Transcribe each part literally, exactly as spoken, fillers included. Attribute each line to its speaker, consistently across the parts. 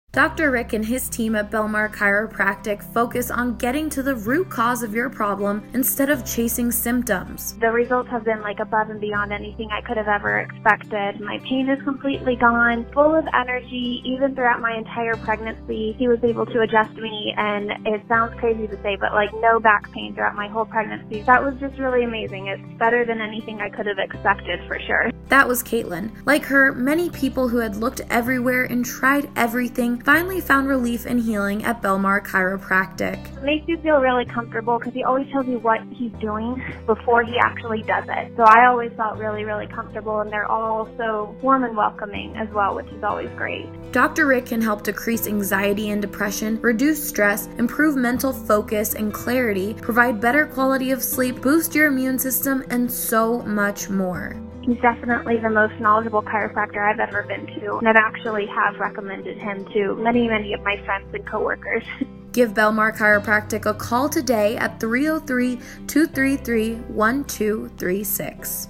Speaker 1: Doctor Rick and his team at Belmar Chiropractic focus on getting to the root cause of your problem instead of chasing symptoms.
Speaker 2: The results have been like above and beyond anything I could have ever expected. My pain is completely gone, full of energy. Even throughout my entire pregnancy, he was able to adjust me, and it sounds crazy to say, but like no back pain throughout my whole pregnancy. That was just really amazing. It's better than anything I could have expected for sure.
Speaker 1: That was Caitlin. Like her, many people who had looked everywhere and tried everything finally found relief and healing at Belmar Chiropractic.
Speaker 2: It makes you feel really comfortable because he always tells you what he's doing before he actually does it. So I always felt really, really comfortable, and they're all so warm and welcoming as well, which is always great.
Speaker 1: Doctor Rick can help decrease anxiety and depression, reduce stress, improve mental focus and clarity, provide better quality of sleep, boost your immune system, and so much more.
Speaker 2: He's definitely the most knowledgeable chiropractor I've ever been to, and I've actually have recommended him to many, many of my friends and coworkers.
Speaker 1: Give Belmar Chiropractic a call today at three oh three, two three three, one two three six.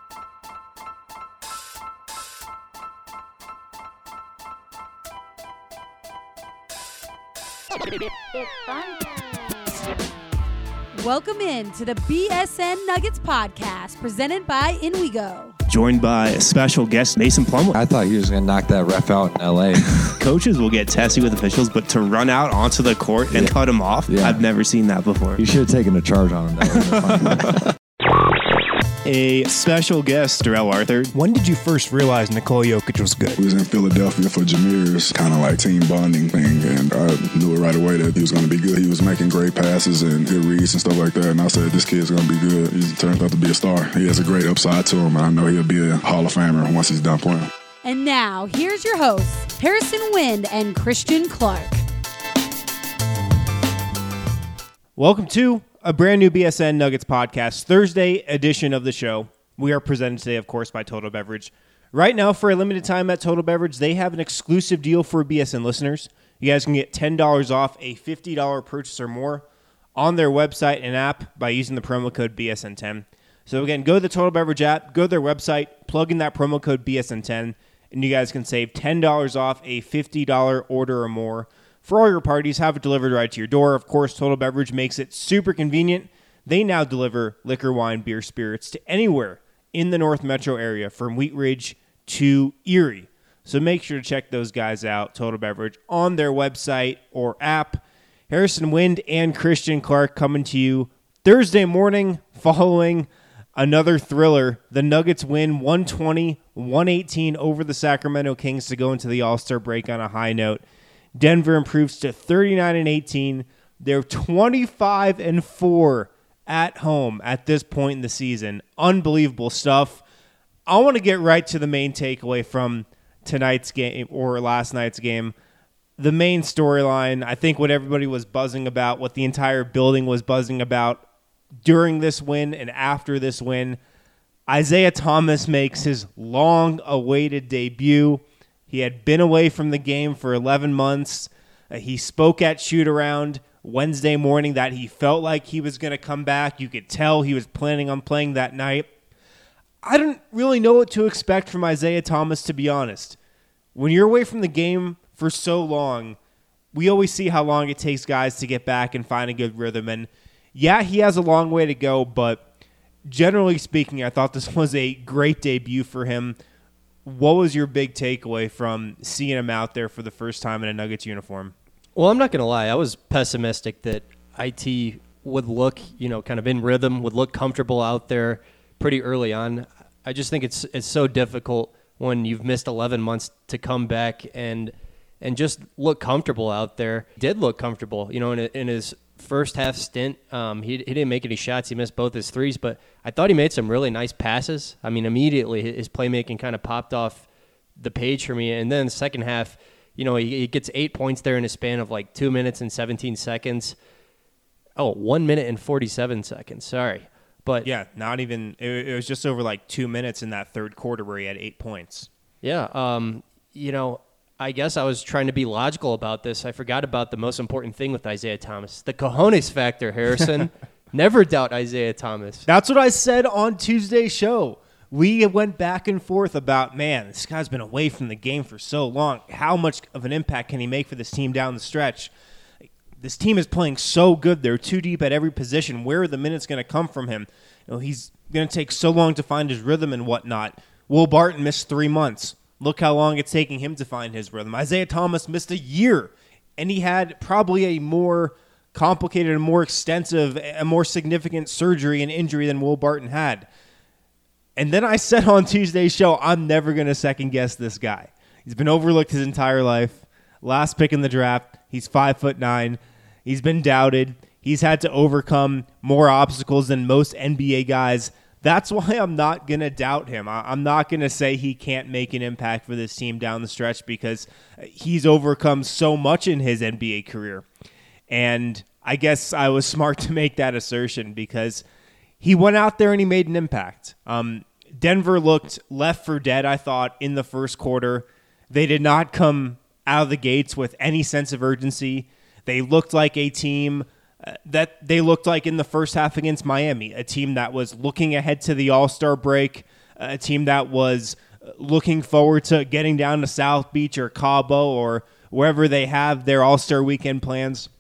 Speaker 3: It's fun. Welcome in to the B S N Nuggets podcast presented by InWeGo.
Speaker 4: Joined by a special guest, Mason Plumlee.
Speaker 5: I thought you was going to knock that ref out in L A.
Speaker 4: Coaches will get testy with officials, but to run out onto the court and yeah. cut him off, yeah. I've never seen that before.
Speaker 5: You should have taken a charge on him. That
Speaker 4: A special guest, Darrell Arthur.
Speaker 6: When did you first realize Nikola Jokic was good?
Speaker 7: We was in Philadelphia for Jameer's kind of like team bonding thing, and I knew it right away that he was going to be good. He was making great passes and good reads and stuff like that, and I said, this kid's going to be good. He turned out to be a star. He has a great upside to him, and I know he'll be a Hall of Famer once he's done playing.
Speaker 3: And now, here's your hosts, Harrison Wind and Christian Clark.
Speaker 4: Welcome to a brand new B S N Nuggets podcast, Thursday edition of the show. We are presented today, of course, by Total Beverage. Right now, for a limited time at Total Beverage, they have an exclusive deal for B S N listeners. You guys can get ten dollars off a fifty dollars purchase or more on their website and app by using the promo code B S N ten. So again, go to the Total Beverage app, go to their website, plug in that promo code B S N ten, and you guys can save ten dollars off a fifty dollars order or more. For all your parties, have it delivered right to your door. Of course, Total Beverage makes it super convenient. They now deliver liquor, wine, beer, spirits to anywhere in the North Metro area from Wheat Ridge to Erie. So make sure to check those guys out, Total Beverage, on their website or app. Harrison Wind and Christian Clark coming to you Thursday morning following another thriller. The Nuggets win one twenty, one eighteen over the Sacramento Kings to go into the All-Star break on a high note. Denver improves to thirty-nine and eighteen. They're twenty-five and four at home at this point in the season. Unbelievable stuff. I want to get right to the main takeaway from tonight's game or last night's game. The main storyline, I think what everybody was buzzing about, what the entire building was buzzing about during this win and after this win, Isaiah Thomas makes his long-awaited debut. He had been away from the game for eleven months. Uh, he spoke at shoot-around Wednesday morning that he felt like he was going to come back. You could tell he was planning on playing that night. I didn't really know what to expect from Isaiah Thomas, to be honest. When you're away from the game for so long, we always see how long it takes guys to get back and find a good rhythm. And yeah, he has a long way to go, but generally speaking, I thought this was a great debut for him. What was your big takeaway from seeing him out there for the first time in a Nuggets uniform?
Speaker 8: Well, I'm not going to lie. I was pessimistic that I T would look, you know, kind of in rhythm, would look comfortable out there pretty early on. I just think it's it's so difficult when you've missed eleven months to come back and and just look comfortable out there. He did look comfortable, you know, in, in his first half stint. Um, he, he didn't make any shots. He missed both his threes, but I thought he made some really nice passes. I mean, immediately his playmaking kind of popped off the page for me. And then the second half, you know, he, he gets eight points there in a span of like two minutes and seventeen seconds. Oh, one minute and forty-seven seconds. Sorry. But
Speaker 4: yeah, not even, it, it was just over like two minutes in that third quarter where he had eight points.
Speaker 8: Yeah. Um, you know, I guess I was trying to be logical about this. I forgot about the most important thing with Isaiah Thomas, the cojones factor, Harrison. Never doubt Isaiah Thomas.
Speaker 4: That's what I said on Tuesday's show. we went back and forth about, man, this guy's been away from the game for so long. How much of an impact can he make for this team down the stretch? This team is playing so good. They're too deep at every position. Where are the minutes going to come from him? You know, he's going to take so long to find his rhythm and whatnot. Will Barton missed three months. Look how long it's taking him to find his rhythm. Isaiah Thomas missed a year, and he had probably a more complicated, a more extensive, a more significant surgery and injury than Will Barton had. And then I said on Tuesday's show, I'm never going to second-guess this guy. He's been overlooked his entire life. Last pick in the draft. He's five foot nine. He's been doubted. He's had to overcome more obstacles than most N B A guys. That's why I'm not going to doubt him. I'm not going to say he can't make an impact for this team down the stretch because he's overcome so much in his N B A career. And I guess I was smart to make that assertion because he went out there and he made an impact. Um, Denver looked left for dead, I thought, in the first quarter. They did not come out of the gates with any sense of urgency. They looked like a team uh, that they looked like in the first half against Miami, a team that was looking ahead to the All-Star break, a team that was looking forward to getting down to South Beach or Cabo or wherever they have their All-Star weekend plans.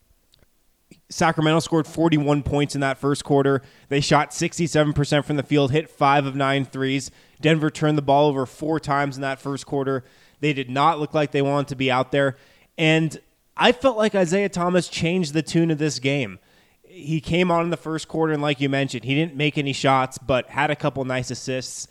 Speaker 4: Sacramento scored forty-one points in that first quarter. They shot sixty-seven percent from the field, hit five of nine threes. Denver turned the ball over four times in that first quarter. They did not look like they wanted to be out there. And I felt like Isaiah Thomas changed the tune of this game. He came on in the first quarter, and like you mentioned, he didn't make any shots, but had a couple nice assists.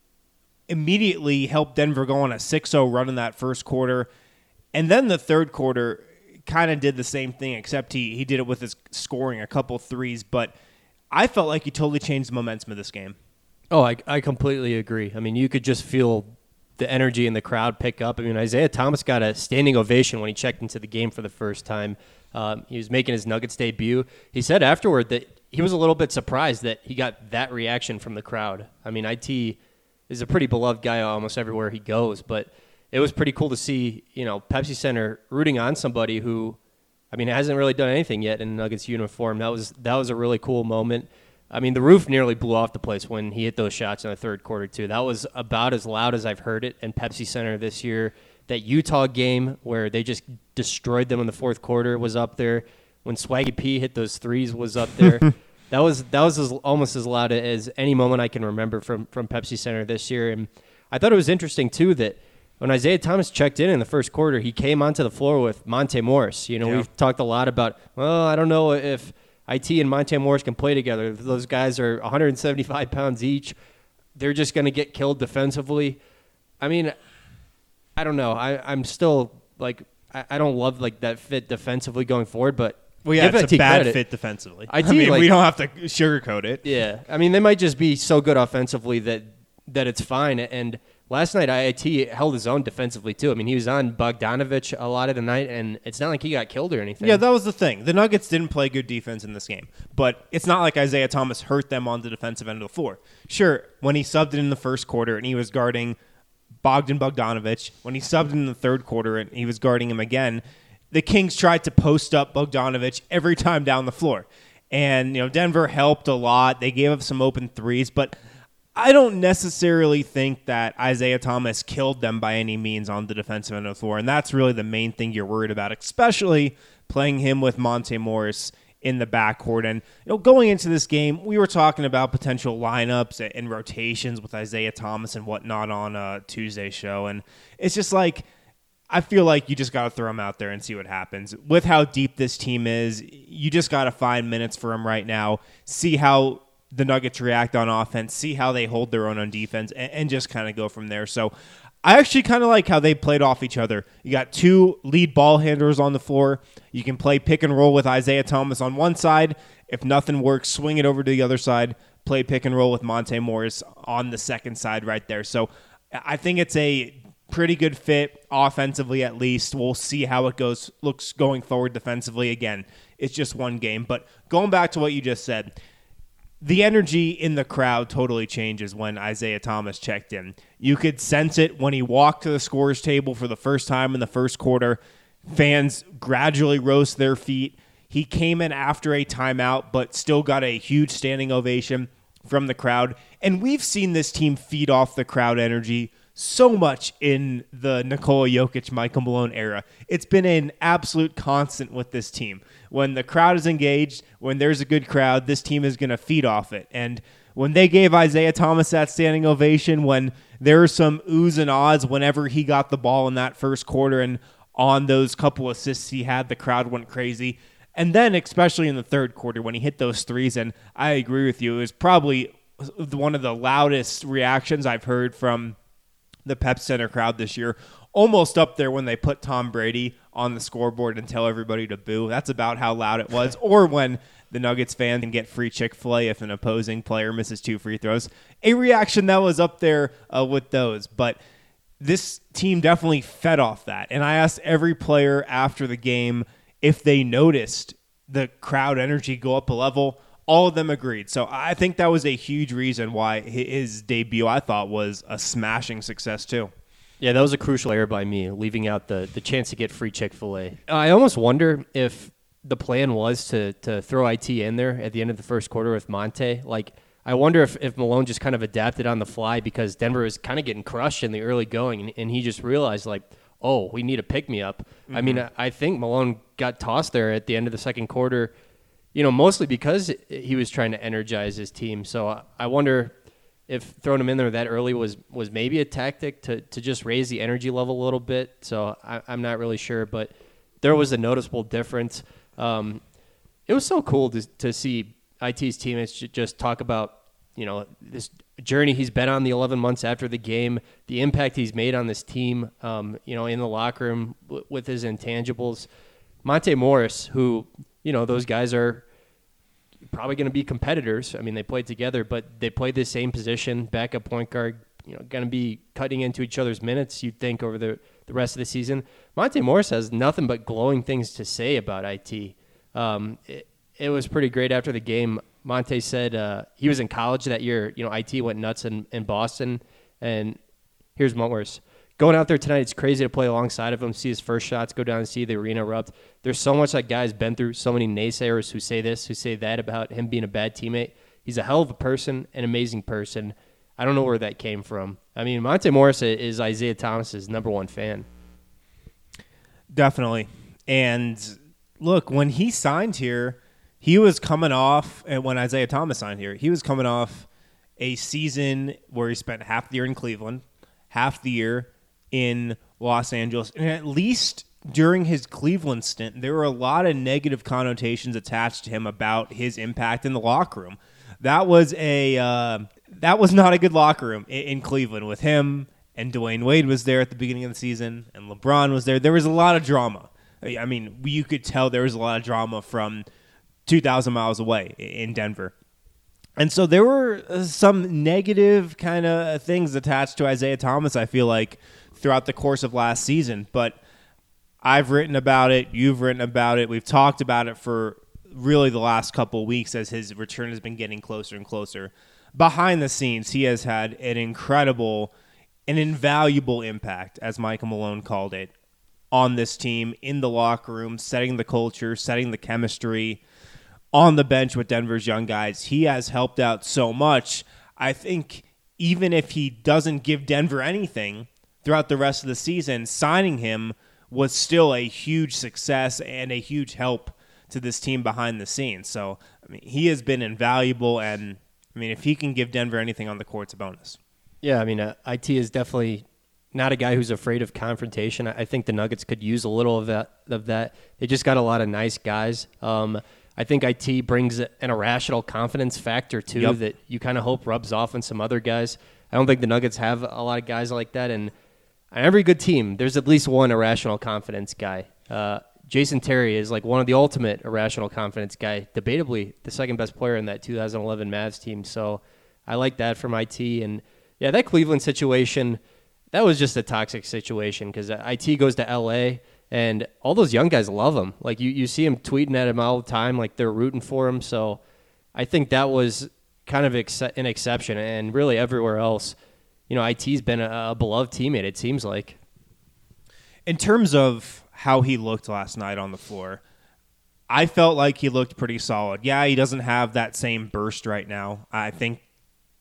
Speaker 4: Immediately helped Denver go on a six oh run in that first quarter. And then the third quarter kind of did the same thing, except he, he did it with his scoring a couple threes. But I felt like he totally changed the momentum of this game.
Speaker 8: Oh, I, I completely agree. I mean, you could just feel the energy in the crowd pick up. I mean, Isaiah Thomas got a standing ovation when he checked into the game for the first time. Um, he was making his Nuggets debut. He said afterward that he was a little bit surprised that he got that reaction from the crowd. I mean, I T is a pretty beloved guy almost everywhere he goes, but it was pretty cool to see, you know, Pepsi Center rooting on somebody who, I mean, hasn't really done anything yet in a Nuggets uniform. That was that was a really cool moment. I mean, the roof nearly blew off the place when he hit those shots in the third quarter, too. That was about as loud as I've heard it in Pepsi Center this year. That Utah game where they just destroyed them in the fourth quarter was up there. When Swaggy P hit those threes was up there. that was that was as, almost as loud as any moment I can remember from, from Pepsi Center this year. And I thought it was interesting, too, that when Isaiah Thomas checked in in the first quarter, he came onto the floor with Monte Morris. You know, yeah. We've talked a lot about, well, I don't know if I T and Monte Morris can play together. Those guys are one hundred seventy-five pounds each. They're just going to get killed defensively. I mean, I don't know. I, I'm still, like, I, I don't love, like, that fit defensively going forward, but
Speaker 4: well, yeah, it's
Speaker 8: I T
Speaker 4: a bad
Speaker 8: credit.
Speaker 4: fit defensively.
Speaker 8: I T,
Speaker 4: I mean,
Speaker 8: like,
Speaker 4: we don't have to sugarcoat it.
Speaker 8: Yeah. I mean, they might just be so good offensively that, that it's fine. And last night, I I T held his own defensively, too. I mean, he was on Bogdanovich a lot of the night, and it's not like he got killed or anything.
Speaker 4: Yeah, that was the thing. The Nuggets didn't play good defense in this game, but it's not like Isaiah Thomas hurt them on the defensive end of the floor. Sure, when he subbed in the first quarter and he was guarding Bogdan Bogdanovich, when he subbed in the third quarter and he was guarding him again, the Kings tried to post up Bogdanovich every time down the floor. And, you know, Denver helped a lot. They gave up some open threes, but I don't necessarily think that Isaiah Thomas killed them by any means on the defensive end of the floor, and that's really the main thing you're worried about, especially playing him with Monte Morris in the backcourt. And you know, going into this game, we were talking about potential lineups and rotations with Isaiah Thomas and whatnot on a Tuesday show, and it's just like I feel like you just got to throw him out there and see what happens. With how deep this team is, you just got to find minutes for him right now, see how the Nuggets react on offense, see how they hold their own on defense, and, and just kind of go from there. So I actually kind of like how they played off each other. You got two lead ball handlers on the floor. You can play pick and roll with Isaiah Thomas on one side. If nothing works, swing it over to the other side, play pick and roll with Monte Morris on the second side right there. So I think it's a pretty good fit offensively at least. We'll see how it goes looks going forward defensively. Again, it's just one game. But going back to what you just said, the energy in the crowd totally changes when Isaiah Thomas checked in. You could sense it when he walked to the scorer's table for the first time in the first quarter. Fans gradually rose to their feet. He came in after a timeout, but still got a huge standing ovation. from the crowd. And we've seen this team feed off the crowd energy so much in the Nikola Jokic, Michael Malone era. It's been an absolute constant with this team. When the crowd is engaged, when there's a good crowd, this team is going to feed off it. And when they gave Isaiah Thomas that standing ovation, when there were some oohs and ahs whenever he got the ball in that first quarter and on those couple assists he had, the crowd went crazy. And then especially in the third quarter when he hit those threes, and I agree with you, it was probably one of the loudest reactions I've heard from the Pep Center crowd this year, almost up there when they put Tom Brady on the scoreboard and tell everybody to boo. That's about how loud it was. Or when the Nuggets fan can get free Chick-fil-A if an opposing player misses two free throws. A reaction that was up there uh, with those. But this team definitely fed off that. And I asked every player after the game if they noticed the crowd energy go up a level. All of them agreed. So I think that was a huge reason why his debut, I thought, was a smashing success too.
Speaker 8: Yeah, that was a crucial error by me, leaving out the, the chance to get free Chick-fil-A. I almost wonder if the plan was to to throw I T in there at the end of the first quarter with Monte. Like, I wonder if, if Malone just kind of adapted on the fly because Denver was kind of getting crushed in the early going, and, and he just realized, like, oh, we need a pick-me-up. Mm-hmm. I mean, I, I think Malone got tossed there at the end of the second quarter, you know, mostly because he was trying to energize his team. So I, I wonder if throwing him in there that early was, was maybe a tactic to, to just raise the energy level a little bit. So I, I'm not really sure, but there was a noticeable difference. Um, it was so cool to to see I T's teammates just talk about, you know, this journey he's been on the eleven months after the game, the impact he's made on this team, um, you know, in the locker room w- with his intangibles. Monte Morris, who, you know, those guys are probably going to be competitors. I mean, they played together, but they played the same position, backup point guard, you know, going to be cutting into each other's minutes, you'd think, over the, the rest of the season. Monte Morris has nothing but glowing things to say about I T. Um, it, it was pretty great after the game. Monte said uh, he was in college that year. You know, I T went nuts in, in Boston, and here's Morris. Going out there tonight, it's crazy to play alongside of him, see his first shots go down and see the arena erupt. There's so much that guy's been through, so many naysayers who say this, who say that about him being a bad teammate. He's a hell of a person, an amazing person. I don't know where that came from. I mean, Monte Morris is Isaiah Thomas's number one fan.
Speaker 4: Definitely. And look, when he signed here, he was coming off, and when Isaiah Thomas signed here, he was coming off a season where he spent half the year in Cleveland, half the year in Los Angeles. And at least during his Cleveland stint, there were a lot of negative connotations attached to him about his impact in the locker room. That was a uh, that was not a good locker room in, in Cleveland with him, and Dwayne Wade was there at the beginning of the season, and LeBron was there. There was a lot of drama. I mean, you could tell there was a lot of drama from two thousand miles away in Denver. And so there were some negative kind of things attached to Isaiah Thomas, I feel like, throughout the course of last season. But I've written about it. You've written about it. We've talked about it for really the last couple of weeks as his return has been getting closer and closer. Behind the scenes, he has had an incredible, an invaluable impact, as Michael Malone called it, on this team, in the locker room, setting the culture, setting the chemistry, on the bench with Denver's young guys. He has helped out so much. I think even if he doesn't give Denver anything throughout the rest of the season, signing him was still a huge success and a huge help to this team behind the scenes. So, I mean, he has been invaluable, and I mean, if he can give Denver anything on the court, it's a bonus.
Speaker 8: Yeah, I mean, uh, I T is definitely not a guy who's afraid of confrontation. I think the Nuggets could use a little of that. Of that. They just got a lot of nice guys. Um, I think I T brings an irrational confidence factor, too, yep. that you kind of hope rubs off on some other guys. I don't think the Nuggets have a lot of guys like that. And on every good team, there's at least one irrational confidence guy. Uh, Jason Terry is like one of the ultimate irrational confidence guy, debatably the second best player in that two thousand eleven Mavs team. So I like that from I T. And, yeah, that Cleveland situation, that was just a toxic situation because I T goes to L A, and all those young guys love him. Like, you, you see him tweeting at him all the time, like they're rooting for him. So I think that was kind of ex- an exception. And really everywhere else, you know, I T's been a, a beloved teammate, it seems like.
Speaker 4: In terms of how he looked last night on the floor, I felt like he looked pretty solid. Yeah, he doesn't have that same burst right now. I think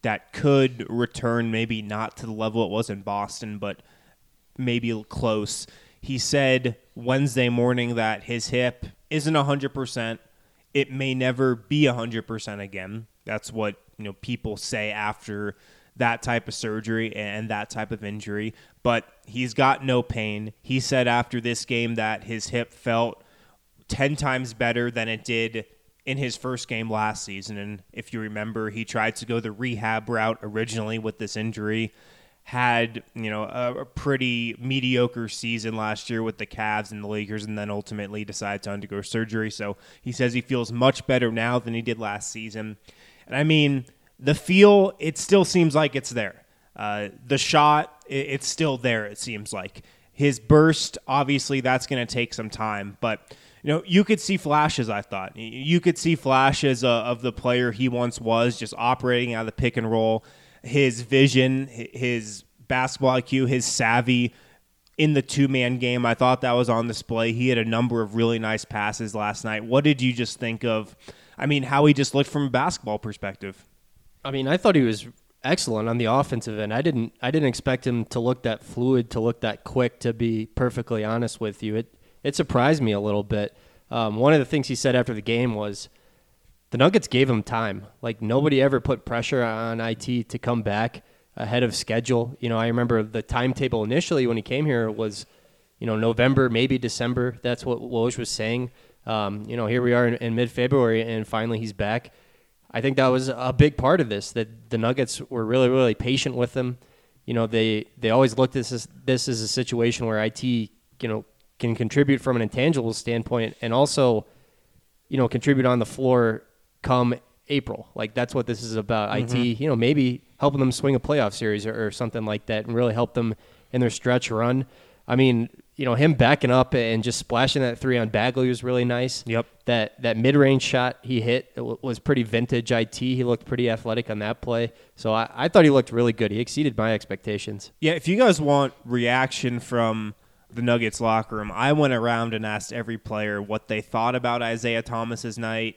Speaker 4: that could return, maybe not to the level it was in Boston, but maybe close. He said Wednesday morning that his hip isn't one hundred percent. It may never be one hundred percent again. That's what, you know, people say after that type of surgery and that type of injury. But he's got no pain. He said after this game that his hip felt ten times better than it did in his first game last season. And if you remember, he tried to go the rehab route originally with this injury, had, you know, a, a pretty mediocre season last year with the Cavs and the Lakers, and then ultimately decided to undergo surgery. So he says he feels much better now than he did last season. And I mean, the feel, it still seems like it's there. Uh, the shot, it, it's still there, it seems like. His burst, obviously, that's going to take some time. But, you know, you could see flashes, I thought. You could see flashes uh, of the player he once was, just operating out of the pick and roll. His vision, his basketball I Q, his savvy in the two-man game, I thought that was on display. He had a number of really nice passes last night. What did you just think of, I mean, how he just looked from a basketball perspective?
Speaker 8: I mean, I thought he was excellent on the offensive end. I didn't I didn't expect him to look that fluid, to look that quick, to be perfectly honest with you. It it surprised me a little bit. Um, one of the things he said after the game was the Nuggets gave him time. Like, nobody ever put pressure on I T to come back ahead of schedule. You know, I remember the timetable initially when he came here was, you know, November, maybe December. That's what Woj was saying. Um, you know, here we are in, in mid-February, and finally he's back. I think that was a big part of this, that the Nuggets were really, really patient with him. You know, they, they always looked at this, this as a situation where I T, you know, can contribute from an intangible standpoint and also, you know, contribute on the floor come April. Like, that's what this is about. Mm-hmm. I T, you know, maybe helping them swing a playoff series or, or something like that and really help them in their stretch run. I mean, you know, him backing up and just splashing that three on Bagley was really nice.
Speaker 4: Yep.
Speaker 8: That that mid-range shot he hit was pretty vintage I T. He looked pretty athletic on that play. So I, I thought he looked really good. He exceeded my expectations.
Speaker 4: Yeah, if you guys want reaction from the Nuggets locker room, I went around and asked every player what they thought about Isaiah Thomas's night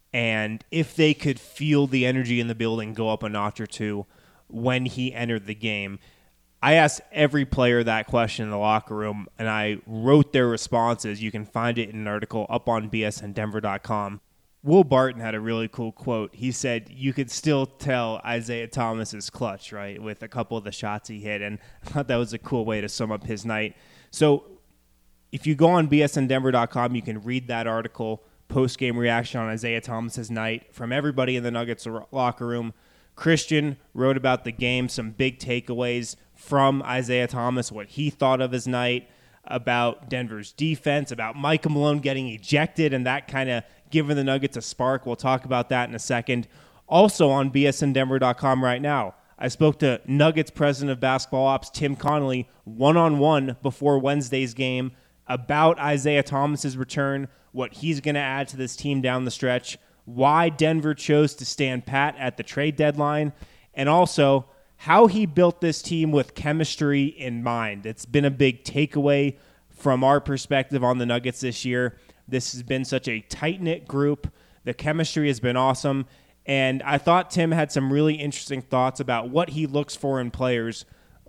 Speaker 4: and if they could feel the energy in the building go up a notch or two when he entered the game. I asked every player that question in the locker room, and I wrote their responses. You can find it in an article up on B S N Denver dot com. Will Barton had a really cool quote. He said, you could still tell Isaiah Thomas is clutch, right, with a couple of the shots he hit, and I thought that was a cool way to sum up his night. So if you go on B S N Denver dot com, you can read that article, post-game reaction on Isaiah Thomas's night from everybody in the Nuggets locker room. Christian wrote about the game, some big takeaways from Isaiah Thomas, what he thought of his night, about Denver's defense, about Michael Malone getting ejected and that kind of giving the Nuggets a spark. We'll talk about that in a second. Also on B S N Denver dot com right now, I spoke to Nuggets president of basketball ops, Tim Connolly, one-on-one before Wednesday's game about Isaiah Thomas's return, what he's going to add to this team down the stretch, why Denver chose to stand pat at the trade deadline, and also how he built this team with chemistry in mind. It's been a big takeaway from our perspective on the Nuggets this year. This has been such a tight-knit group. The chemistry has been awesome, and I thought Tim had some really interesting thoughts about what he looks for in players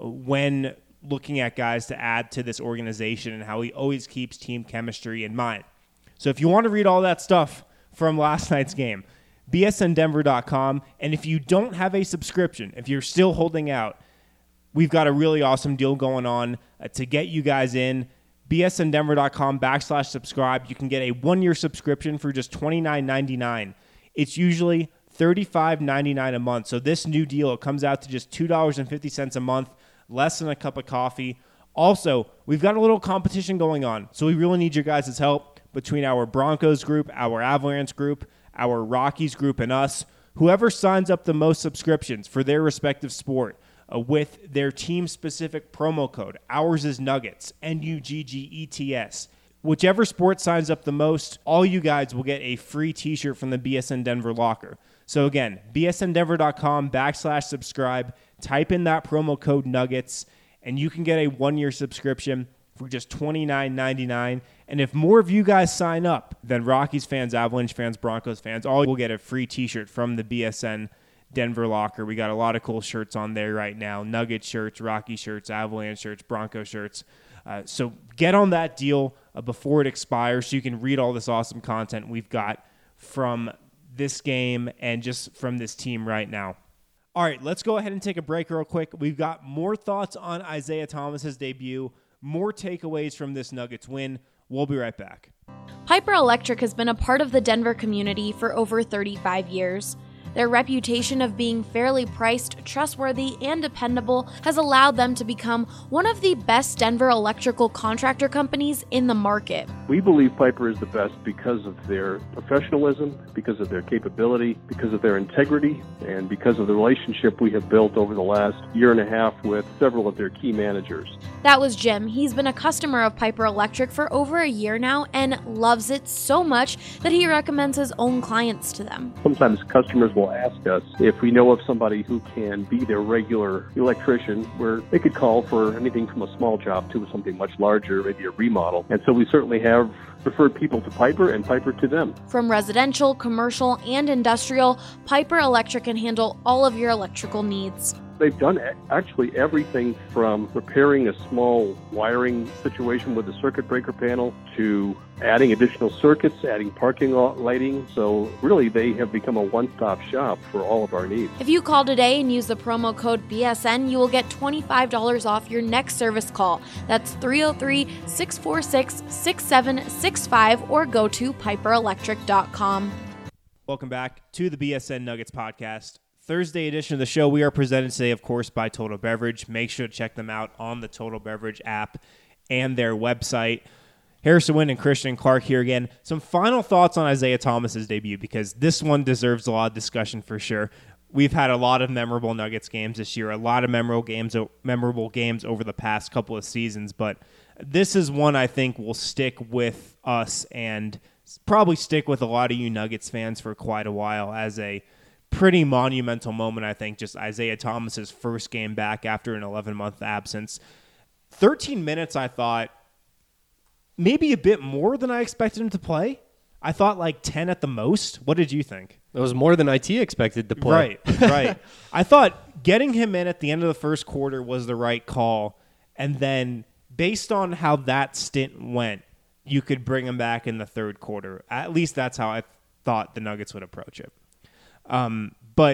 Speaker 4: when looking at guys to add to this organization and how he always keeps team chemistry in mind. So if you want to read all that stuff from last night's game, B S N Denver dot com. And if you don't have a subscription, if you're still holding out, we've got a really awesome deal going on uh, to get you guys in. B S N Denver dot com backslash subscribe. You can get a one-year subscription for just twenty-nine ninety-nine. It's usually thirty-five ninety-nine a month. So this new deal, it comes out to just two dollars and fifty cents a month, less than a cup of coffee. Also, we've got a little competition going on, so we really need your guys' help between our Broncos group, our Avalanche group, our Rockies group, and us. Whoever signs up the most subscriptions for their respective sport uh, with their team-specific promo code, ours is Nuggets, N U G G E T S. Whichever sport signs up the most, all you guys will get a free t-shirt from the B S N Denver locker. So again, B S N Denver dot com backslash subscribe, type in that promo code Nuggets, and you can get a one-year subscription for just twenty-nine ninety-nine. And if more of you guys sign up, then Rockies fans, Avalanche fans, Broncos fans, all will get a free t-shirt from the B S N Denver locker. We got a lot of cool shirts on there right now. Nugget shirts, Rocky shirts, Avalanche shirts, Bronco shirts. Uh, so get on that deal uh, before it expires so you can read all this awesome content we've got from this game and just from this team right now. All right, let's go ahead and take a break real quick. We've got more thoughts on Isaiah Thomas's debut, more takeaways from this Nuggets win. We'll be right back.
Speaker 1: Piper Electric has been a part of the Denver community for over thirty-five years. Their reputation of being fairly priced, trustworthy, and dependable has allowed them to become one of the best Denver electrical contractor companies in the market.
Speaker 9: We believe Piper is the best because of their professionalism, because of their capability, because of their integrity, and because of the relationship we have built over the last year and a half with several of their key managers.
Speaker 1: That was Jim. He's been a customer of Piper Electric for over a year now and loves it so much that he recommends his own clients to them.
Speaker 9: Sometimes customers will ask us if we know of somebody who can be their regular electrician, where they could call for anything from a small job to something much larger, maybe a remodel. And so we certainly have referred people to Piper and Piper to them.
Speaker 1: From residential, commercial, and industrial, Piper Electric can handle all of your electrical needs.
Speaker 9: They've done actually everything from repairing a small wiring situation with the circuit breaker panel to adding additional circuits, adding parking lot lighting. So really, they have become a one-stop shop for all of our needs.
Speaker 1: If you call today and use the promo code B S N, you will get twenty-five dollars off your next service call. That's three oh three, six four six, six seven six five or go to piper electric dot com.
Speaker 4: Welcome back to the B S N Nuggets podcast. Thursday edition of the show. We are presented today, of course, by Total Beverage. Make sure to check them out on the Total Beverage app and their website. Harrison Wind and Christian Clark here again. Some final thoughts on Isaiah Thomas's debut, because this one deserves a lot of discussion for sure. We've had a lot of memorable Nuggets games this year, a lot of memorable games, memorable games over the past couple of seasons, but this is one I think will stick with us and probably stick with a lot of you Nuggets fans for quite a while as a pretty monumental moment, I think, just Isaiah Thomas's first game back after an eleven-month absence. thirteen minutes, I thought, maybe a bit more than I expected him to play. I thought like ten at the most. What did you think?
Speaker 8: It was more than I T expected to play.
Speaker 4: Right, right. I thought getting him in at the end of the first quarter was the right call, and then based on how that stint went, you could bring him back in the third quarter. At least that's how I thought the Nuggets would approach it. Um, but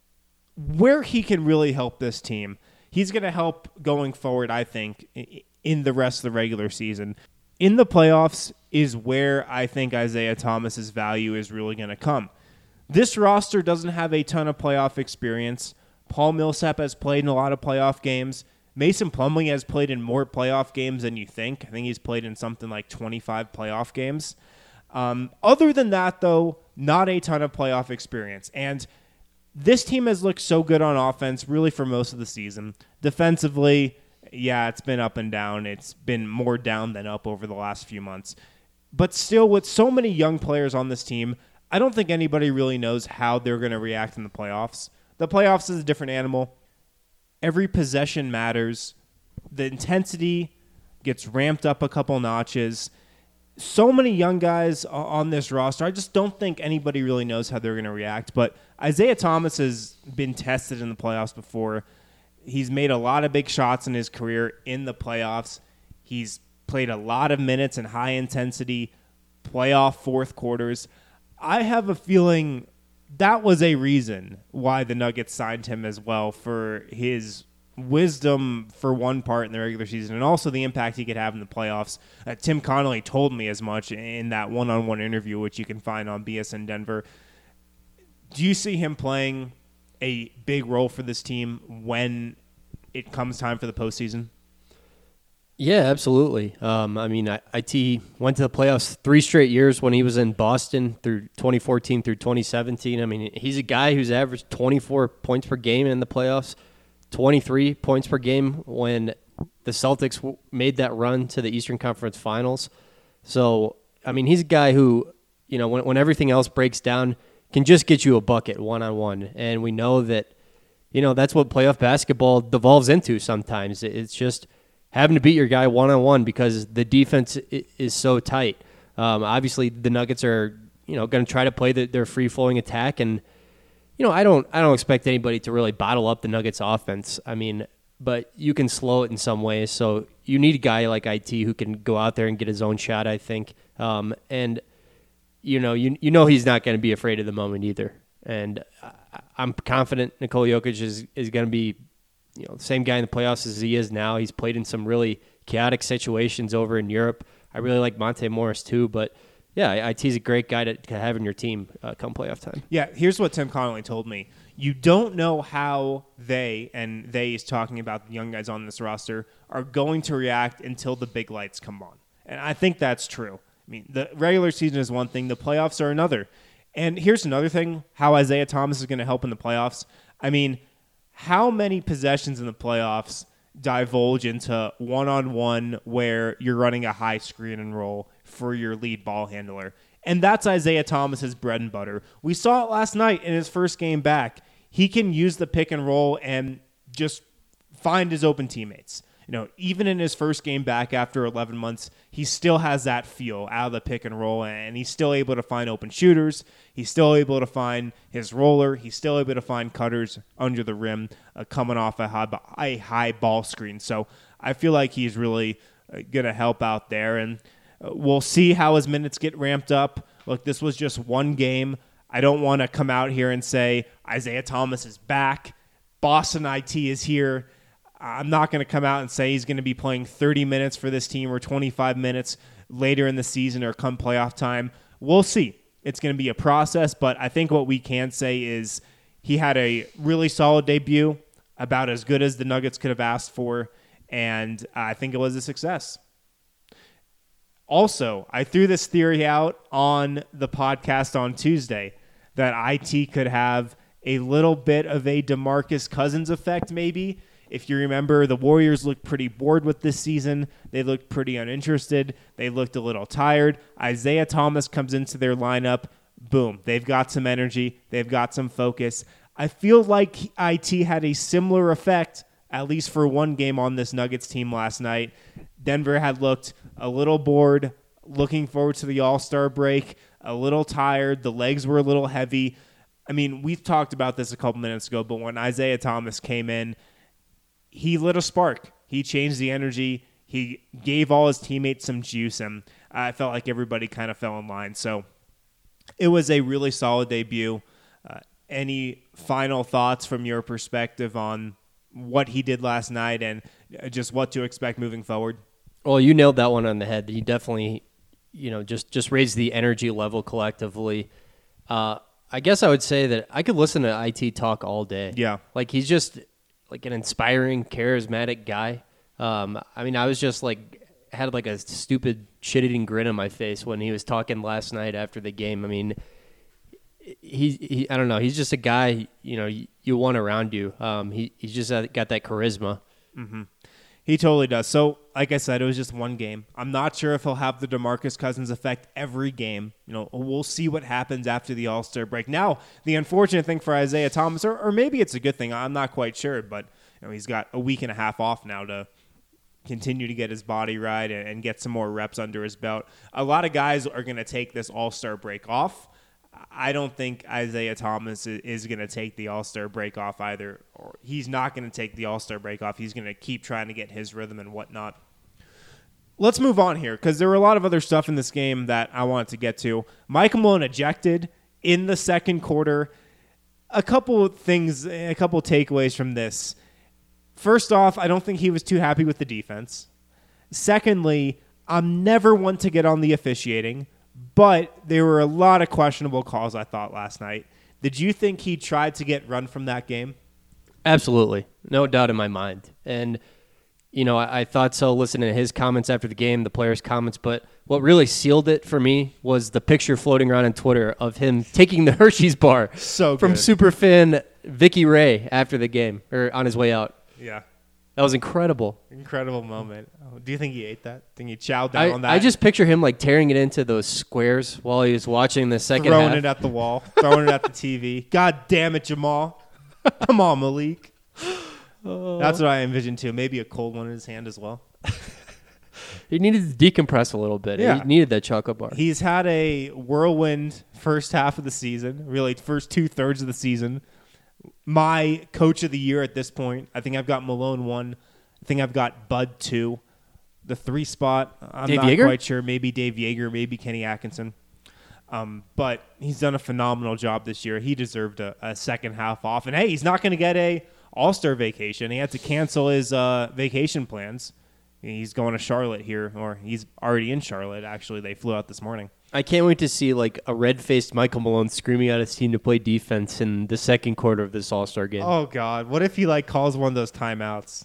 Speaker 4: where he can really help this team, he's going to help going forward, I think, in the rest of the regular season. In the playoffs is where I think Isaiah Thomas's value is really going to come. This roster doesn't have a ton of playoff experience. Paul Millsap has played in a lot of playoff games. Mason Plumlee has played in more playoff games than you think. I think he's played in something like twenty-five playoff games. Um, other than that, though, not a ton of playoff experience. And this team has looked so good on offense really for most of the season. Defensively, yeah, it's been up and down. It's been more down than up over the last few months. But still, with so many young players on this team, I don't think anybody really knows how they're going to react in the playoffs. The playoffs is a different animal. Every possession matters. The intensity gets ramped up a couple notches. So many young guys on this roster. I just don't think anybody really knows how they're going to react. But Isaiah Thomas has been tested in the playoffs before. He's made a lot of big shots in his career in the playoffs. He's played a lot of minutes in high-intensity playoff fourth quarters. I have a feeling that was a reason why the Nuggets signed him as well, for his wisdom for one part in the regular season and also the impact he could have in the playoffs. Uh, Tim Connolly told me as much in that one-on-one interview, which you can find on B S N Denver. Do you see him playing a big role for this team when it comes time for the postseason?
Speaker 8: Yeah, absolutely. Um, I mean, I T went to the playoffs three straight years when he was in Boston through twenty fourteen through twenty seventeen. I mean, he's a guy who's averaged twenty-four points per game in the playoffs, twenty-three points per game when the Celtics w- made that run to the Eastern Conference Finals. So, I mean, he's a guy who, you know, when, when everything else breaks down, can just get you a bucket one-on-one. And we know that, you know, that's what playoff basketball devolves into sometimes. It's just having to beat your guy one-on-one because the defense is so tight. Um, obviously, the Nuggets are, you know, going to try to play the, their free-flowing attack. And, you know, I don't I don't expect anybody to really bottle up the Nuggets offense. I mean, but you can slow it in some ways. So you need a guy like I T who can go out there and get his own shot, I think. Um, and, you know, you you know he's not going to be afraid of the moment either. And I, I'm confident Nikola Jokic is, is going to be, you know, the same guy in the playoffs as he is now. He's played in some really chaotic situations over in Europe. I really like Monte Morris too, but yeah, I T's a great guy to, to have in your team uh, come playoff time.
Speaker 4: Yeah, here's what Tim Connolly told me. You don't know how they, and they is talking about the young guys on this roster, are going to react until the big lights come on. And I think that's true. I mean, the regular season is one thing, the playoffs are another. And here's another thing, how Isaiah Thomas is going to help in the playoffs. I mean, how many possessions in the playoffs divulge into one-on-one where you're running a high screen and roll for your lead ball handler? And that's Isaiah Thomas's bread and butter. We saw it last night in his first game back. He can use the pick and roll and just find his open teammates. You know, even in his first game back after eleven months, he still has that feel out of the pick and roll, and he's still able to find open shooters. He's still able to find his roller. He's still able to find cutters under the rim uh, coming off a high, a high ball screen. So I feel like he's really uh, going to help out there, and uh, we'll see how his minutes get ramped up. Look, this was just one game. I don't want to come out here and say Isaiah Thomas is back. Boston I T is here. I'm not going to come out and say he's going to be playing thirty minutes for this team or twenty-five minutes later in the season or come playoff time. We'll see. It's going to be a process, but I think what we can say is he had a really solid debut, about as good as the Nuggets could have asked for, and I think it was a success. Also, I threw this theory out on the podcast on Tuesday that I T could have a little bit of a DeMarcus Cousins effect maybe. If you remember, the Warriors looked pretty bored with this season. They looked pretty uninterested. They looked a little tired. Isaiah Thomas comes into their lineup. Boom. They've got some energy. They've got some focus. I feel like I T had a similar effect, at least for one game on this Nuggets team last night. Denver had looked a little bored, looking forward to the All-Star break, a little tired. The legs were a little heavy. I mean, we've talked about this a couple minutes ago, but when Isaiah Thomas came in, he lit a spark. He changed the energy. He gave all his teammates some juice, and I felt like everybody kind of fell in line. So it was a really solid debut. Uh, any final thoughts from your perspective on what he did last night and just what to expect moving forward?
Speaker 8: Well, you nailed that one on the head. He definitely, you know, just, just raised the energy level collectively. Uh, I guess I would say that I could listen to I T talk all day.
Speaker 4: Yeah.
Speaker 8: Like, he's just like an inspiring, charismatic guy. Um, I mean, I was just like, had like a stupid shit-eating grin on my face when he was talking last night after the game. I mean, he, he I don't know. He's just a guy, you know, you, you want around you. Um, he, he's just got that charisma.
Speaker 4: Mm-hmm. He totally does. So, like I said, it was just one game. I'm not sure if he'll have the DeMarcus Cousins effect every game. You know, we'll see what happens after the All-Star break. Now, the unfortunate thing for Isaiah Thomas, or, or maybe it's a good thing, I'm not quite sure, but you know, he's got a week and a half off now to continue to get his body right and, and get some more reps under his belt. A lot of guys are going to take this All-Star break off. I don't think Isaiah Thomas is going to take the All-Star break off either. Or he's not going to take the All-Star break off. He's going to keep trying to get his rhythm and whatnot. Let's move on here because there were a lot of other stuff in this game that I wanted to get to. Mike Malone ejected in the second quarter. A couple of things, a couple of takeaways from this. First off, I don't think he was too happy with the defense. Secondly, I'm never one to get on the officiating, but there were a lot of questionable calls, I thought, last night. Did you think he tried to get run from that game?
Speaker 8: Absolutely. No doubt in my mind. And, you know, I, I thought so listening to his comments after the game, the players' comments, but what really sealed it for me was the picture floating around on Twitter of him taking the Hershey's bar
Speaker 4: so
Speaker 8: from superfan Vicky Ray after the game, or on his way out.
Speaker 4: Yeah.
Speaker 8: That was incredible.
Speaker 4: Incredible moment. Oh, do you think he ate that? Think he chowed down
Speaker 8: I,
Speaker 4: on that?
Speaker 8: I just picture him like tearing it into those squares while he was watching the second
Speaker 4: throwing
Speaker 8: half.
Speaker 4: it at the wall, throwing it at the T V. God damn it, Jamal. Come on, Malik. Oh. That's what I envisioned too. Maybe a cold one in his hand as well.
Speaker 8: He needed to decompress a little bit.
Speaker 4: Yeah.
Speaker 8: He needed that chocolate bar.
Speaker 4: He's had a whirlwind first half of the season, really first two thirds of the season. My coach of the year at this point, I think I've got Malone one. I think I've got Bud two. The three spot, I'm
Speaker 8: Dave
Speaker 4: not
Speaker 8: Yeager?
Speaker 4: quite sure. Maybe Dave Yeager, maybe Kenny Atkinson. Um, but he's done a phenomenal job this year. He deserved a, a second half off. And, hey, he's not going to get a All-Star vacation. He had to cancel his uh, vacation plans. He's going to Charlotte here, or he's already in Charlotte, actually. They flew out this morning.
Speaker 8: I can't wait to see like a red-faced Michael Malone screaming at his team to play defense in the second quarter of this All-Star game.
Speaker 4: Oh, God. What if he, like, calls one of those timeouts?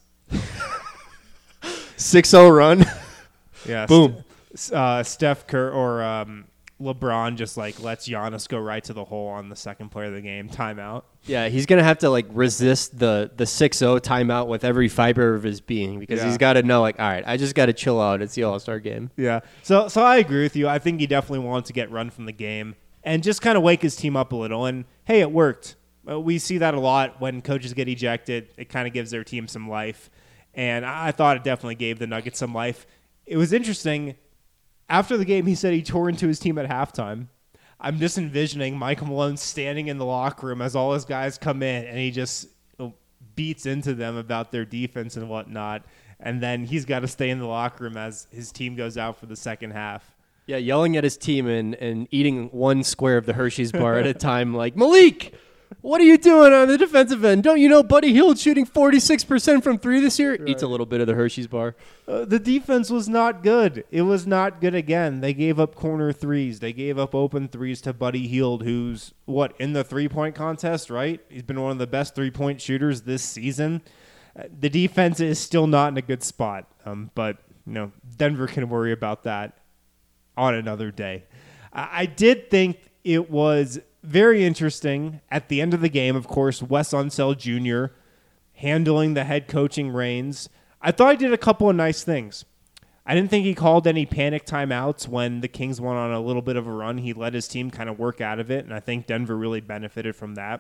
Speaker 8: six oh run.
Speaker 4: Yeah.
Speaker 8: Boom.
Speaker 4: St- uh, Steph Curry or um, LeBron just, like, lets Giannis go right to the hole on the second play of the game. Timeout.
Speaker 8: Yeah, he's going to have to like resist the the six oh timeout with every fiber of his being because
Speaker 4: Yeah.
Speaker 8: he's got to know like, all right, I just got to chill out. It's the All-Star game.
Speaker 4: Yeah. So so I agree with you. I think he definitely wanted to get run from the game and just kind of wake his team up a little. And, hey, it worked. Uh, we see that a lot when coaches get ejected. It kind of gives their team some life. And I, I thought it definitely gave the Nuggets some life. It was interesting. After the game, he said he tore into his team at halftime. I'm just envisioning Michael Malone standing in the locker room as all his guys come in, and he just beats into them about their defense and whatnot. And then he's got to stay in the locker room as his team goes out for the second half.
Speaker 8: Yeah, yelling at his team and, and eating one square of the Hershey's bar at a time like, Malik, what are you doing on the defensive end? Don't you know Buddy Hield's shooting forty-six percent from three this year? Right. Eats a little bit of the Hershey's bar.
Speaker 4: Uh, the defense was not good. It was not good again. They gave up corner threes. They gave up open threes to Buddy Hield, who's, what, in the three-point contest, right? He's been one of the best three-point shooters this season. Uh, the defense is still not in a good spot, um, but, you know, Denver can worry about that on another day. I, I did think it was very interesting at the end of the game, of course, Wes Unseld Junior handling the head coaching reins. I thought he did a couple of nice things. I didn't think he called any panic timeouts when the Kings went on a little bit of a run. He let his team kind of work out of it, and I think Denver really benefited from that.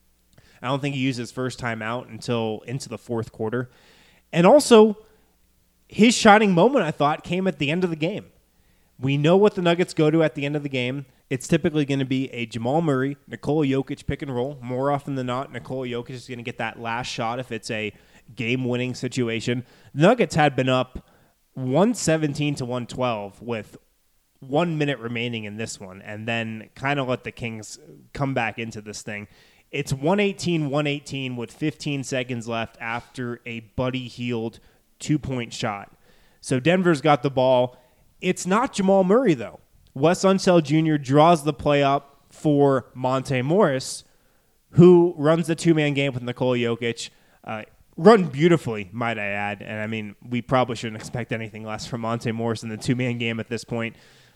Speaker 4: I don't think he used his first timeout until into the fourth quarter. And also, his shining moment, I thought, came at the end of the game. We know what the Nuggets go to at the end of the game. It's typically going to be a Jamal Murray, Nikola Jokic pick and roll. More often than not, Nikola Jokic is going to get that last shot if it's a game-winning situation. The Nuggets had been up one seventeen to one twelve with one minute remaining in this one, and then kind of let the Kings come back into this thing. It's one eighteen one eighteen with fifteen seconds left after a Buddy Hield two-point shot. So Denver's got the ball. It's not Jamal Murray, though. Wes Unseld Junior draws the play up for Monte Morris, who runs the two-man game with Nikola Jokic. Uh, run beautifully, might I add. And, I mean, we probably shouldn't expect anything less from Monte Morris in the two-man game at this point.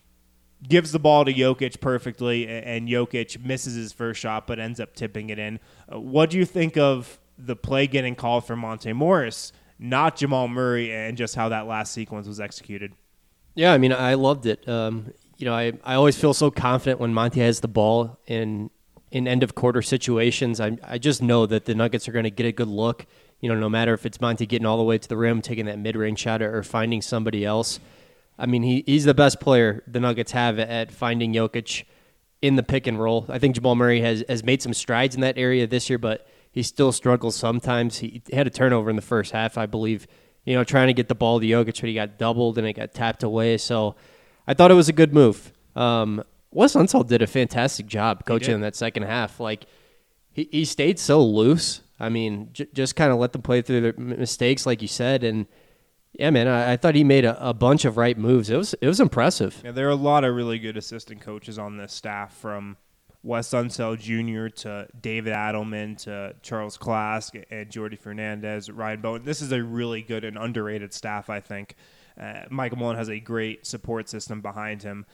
Speaker 4: Gives the ball to Jokic perfectly, and Jokic misses his first shot but ends up tipping it in. Uh, what do you think of the play getting called for Monte Morris, not Jamal Murray, and just how that last sequence was executed?
Speaker 8: Yeah, I mean, I loved it. Um, you know, I, I always feel so confident when Monte has the ball in in end of quarter situations. I I just know that the Nuggets are going to get a good look. You know, no matter if it's Monte getting all the way to the rim, taking that mid range shot, or finding somebody else. I mean, he he's the best player the Nuggets have at finding Jokic in the pick and roll. I think Jamal Murray has has made some strides in that area this year, but he still struggles sometimes. He had a turnover in the first half, I believe. You know, trying to get the ball to Jokic, but he got doubled and it got tapped away. So I thought it was a good move. Um, Wes Unseld did a fantastic job coaching in that second half. Like, he, he stayed so loose. I mean, j- just kind of let them play through their mistakes, like you said. And, yeah, man, I, I thought he made a, a bunch of right moves. It was it was impressive.
Speaker 4: Yeah, there are a lot of really good assistant coaches on this staff, from Wes Unseld Junior to David Adelman to Charles Klask and Jordi Fernandez, Ryan Bowen. This is a really good and underrated staff, I think. Uh, Michael Malone has a great support system behind him.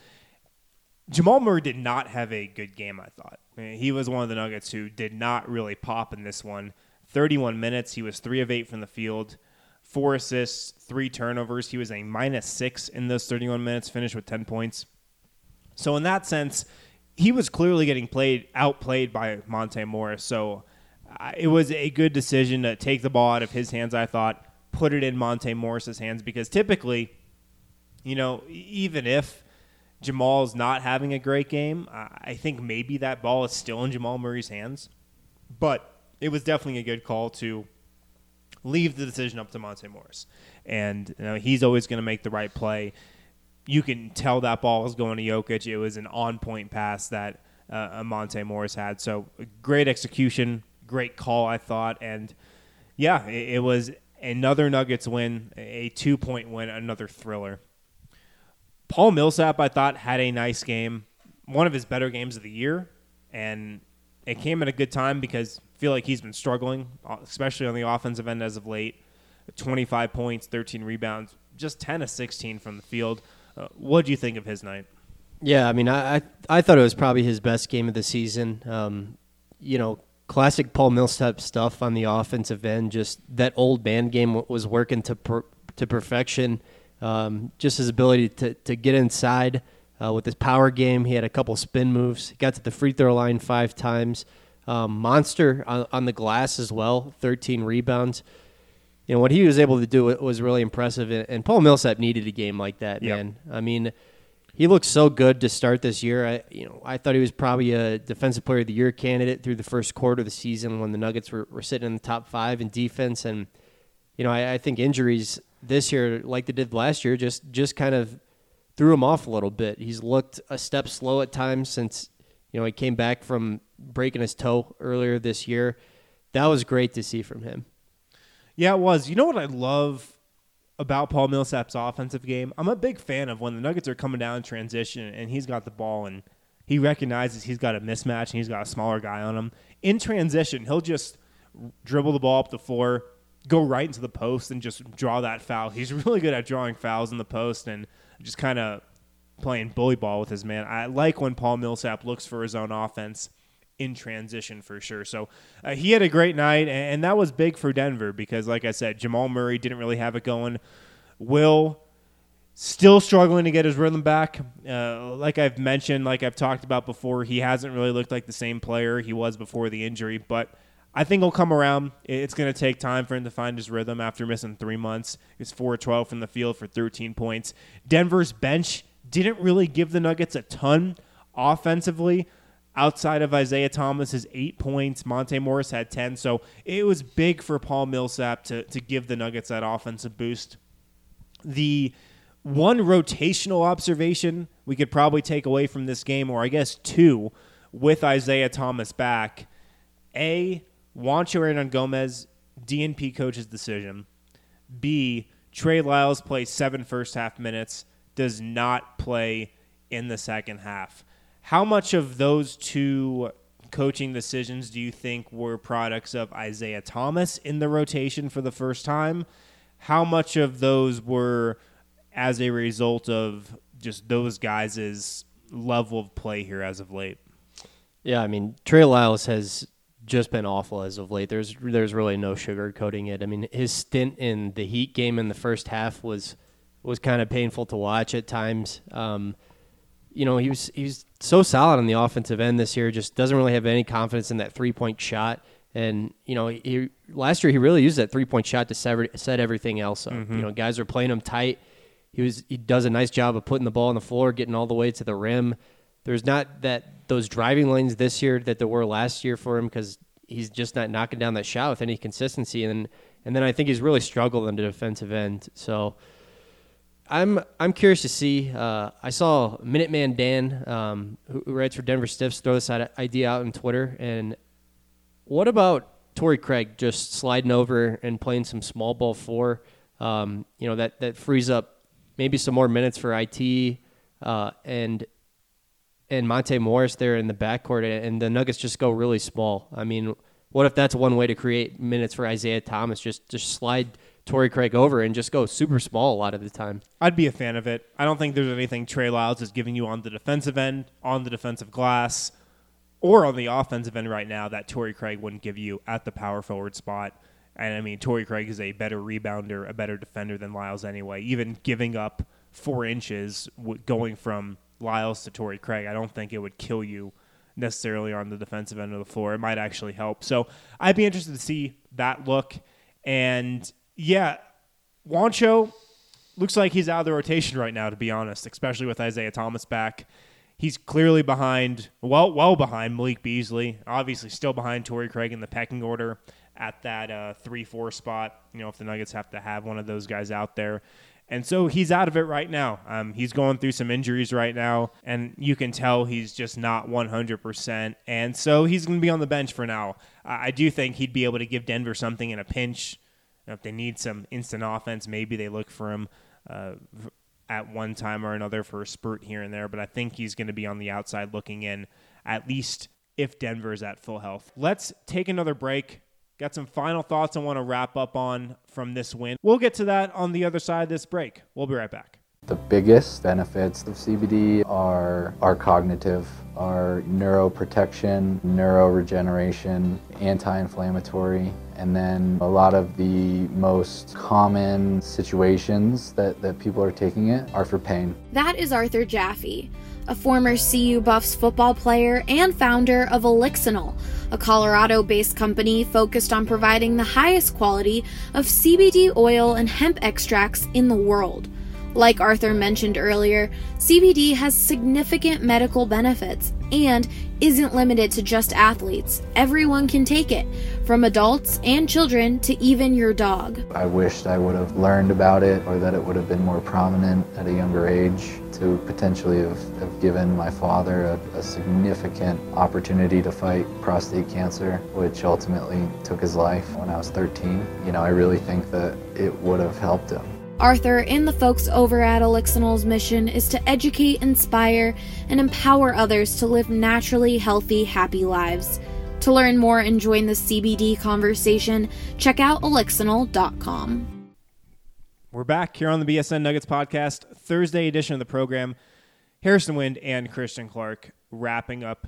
Speaker 4: Jamal Murray did not have a good game, I thought. I mean, he was one of the Nuggets who did not really pop in this one. thirty-one minutes, he was three of eight from the field, four assists, three turnovers. He was a minus six in those thirty-one minutes, finished with ten points. So in that sense, he was clearly getting played outplayed by Monte Morris. So uh, it was a good decision to take the ball out of his hands, I thought, put it in Monte Morris's hands, because typically you know, even if Jamal's not having a great game, I think maybe that ball is still in Jamal Murray's hands. But it was definitely a good call to leave the decision up to Monte Morris. And you know, he's always going to make the right play. You can tell that ball was going to Jokic. It was an on-point pass that uh, Monte Morris had. So great execution, great call, I thought. And, yeah, it, it was another Nuggets win, a two-point win, another thriller. Paul Millsap, I thought, had a nice game, one of his better games of the year. And it came at a good time because I feel like he's been struggling, especially on the offensive end as of late. twenty-five points, thirteen rebounds, just ten of sixteen from the field. Uh, what do you think of his night?
Speaker 8: Yeah, I mean, I, I I thought it was probably his best game of the season. Um, you know, classic Paul Millsap stuff on the offensive end. Just that old man game was working to per, to perfection. Um, just his ability to to get inside uh, with his power game. He had a couple spin moves. He got to the free throw line five times. Um, monster on, on the glass as well. thirteen rebounds. You know, what he was able to do was really impressive, and Paul Millsap needed a game like that, man. Yep. I mean, he looked so good to start this year. I, you know, I thought he was probably a Defensive Player of the Year candidate through the first quarter of the season when the Nuggets were, were sitting in the top five in defense. And, you know, I, I think injuries this year, like they did last year, just, just kind of threw him off a little bit. He's looked a step slow at times since, you know, he came back from breaking his toe earlier this year. That was great to see from him.
Speaker 4: Yeah, it was. You know what I love about Paul Millsap's offensive game? I'm a big fan of when the Nuggets are coming down in transition and he's got the ball and he recognizes he's got a mismatch and he's got a smaller guy on him. In transition, he'll just dribble the ball up the floor, go right into the post, and just draw that foul. He's really good at drawing fouls in the post and just kind of playing bully ball with his man. I like when Paul Millsap looks for his own offense in transition for sure. So uh, he had a great night, and, and that was big for Denver because, like I said, Jamal Murray didn't really have it going. Will still struggling to get his rhythm back. Uh, like I've mentioned, like I've talked about before, he hasn't really looked like the same player he was before the injury, but I think he'll come around. It's going to take time for him to find his rhythm after missing three months. He was four of twelve from the field for thirteen points. Denver's bench didn't really give the Nuggets a ton offensively. Outside of Isaiah Thomas's eight points, Monte Morris had ten. So it was big for Paul Millsap to, to give the Nuggets that offensive boost. The one rotational observation we could probably take away from this game, or I guess two, with Isaiah Thomas back, A, Juancho Hernangomez, D N P coach's decision. B, Trey Lyles plays seven first-half minutes, does not play in the second half. How much of those two coaching decisions do you think were products of Isaiah Thomas in the rotation for the first time? How much of those were as a result of just those guys' level of play here as of late?
Speaker 8: Yeah, I mean, Trey Lyles has just been awful as of late. There's there's really no sugarcoating it. I mean, his stint in the Heat game in the first half was was kind of painful to watch at times. Um, you know, he was he was so solid on the offensive end this year, just doesn't really have any confidence in that three-point shot. And, you know, he, last year he really used that three-point shot to sever, set everything else up. Mm-hmm. You know, guys are playing him tight. He was he does a nice job of putting the ball on the floor, getting all the way to the rim. There's not that those driving lanes this year that there were last year for him because he's just not knocking down that shot with any consistency. And and then I think he's really struggled on the defensive end. So I'm I'm curious to see. Uh, I saw Minuteman Dan, um, who, who writes for Denver Stiffs, throw this idea out on Twitter. And what about Torrey Craig just sliding over and playing some small ball four? Um, you know, that, that frees up maybe some more minutes for I T uh, and and Monte Morris there in the backcourt, and the Nuggets just go really small. I mean, what if that's one way to create minutes for Isaiah Thomas? Just just slide Torrey Craig over and just go super small a lot of the time.
Speaker 4: I'd be a fan of it. I don't think there's anything Trey Lyles is giving you on the defensive end, on the defensive glass, or on the offensive end right now that Torrey Craig wouldn't give you at the power forward spot. And, I mean, Torrey Craig is a better rebounder, a better defender than Lyles anyway. Even giving up four inches going from Lyles to Torrey Craig, I don't think it would kill you necessarily on the defensive end of the floor. It might actually help. So I'd be interested to see that look. And, yeah, Juancho, looks like he's out of the rotation right now, to be honest, especially with Isaiah Thomas back. He's clearly behind, well, well behind Malik Beasley. Obviously, still behind Torrey Craig in the pecking order at that uh, three four spot. You know, if the Nuggets have to have one of those guys out there. And so he's out of it right now. Um, he's going through some injuries right now, and you can tell he's just not one hundred percent. And so he's going to be on the bench for now. I do think he'd be able to give Denver something in a pinch. You know, if they need some instant offense, maybe they look for him uh, at one time or another for a spurt here and there. But I think he's going to be on the outside looking in, at least if Denver is at full health. Let's take another break. Got some final thoughts I want to wrap up on from this win. We'll get to that on the other side of this break. We'll be right back.
Speaker 10: The biggest benefits of C B D are, are cognitive, are neuroprotection, neuroregeneration, anti-inflammatory, and then a lot of the most common situations that, that people are taking it are for pain.
Speaker 1: That is Arthur Jaffe, a former C U Buffs football player and founder of Elixinol, a Colorado-based company focused on providing the highest quality of C B D oil and hemp extracts in the world. Like Arthur mentioned earlier, C B D has significant medical benefits and isn't limited to just athletes. Everyone can take it, from adults and children to even your dog.
Speaker 10: I wished I would have learned about it, or that it would have been more prominent at a younger age to potentially have, have given my father a, a significant opportunity to fight prostate cancer, which ultimately took his life when I was thirteen. You know, I really think that it would have helped him.
Speaker 1: Arthur and the folks over at Elixinol's mission is to educate, inspire, and empower others to live naturally healthy, happy lives. To learn more and join the C B D conversation, check out elixinol dot com.
Speaker 4: We're back here on the B S N Nuggets podcast, Thursday edition of the program. Harrison Wind and Christian Clark wrapping up.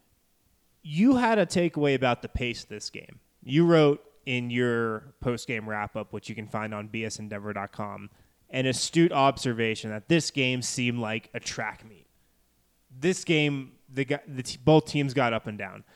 Speaker 4: You had a takeaway about the pace of this game. You wrote in your post-game wrap-up, which you can find on b s n denver dot com, an astute observation that this game seemed like a track meet. This game, the, the t- both teams got up and down.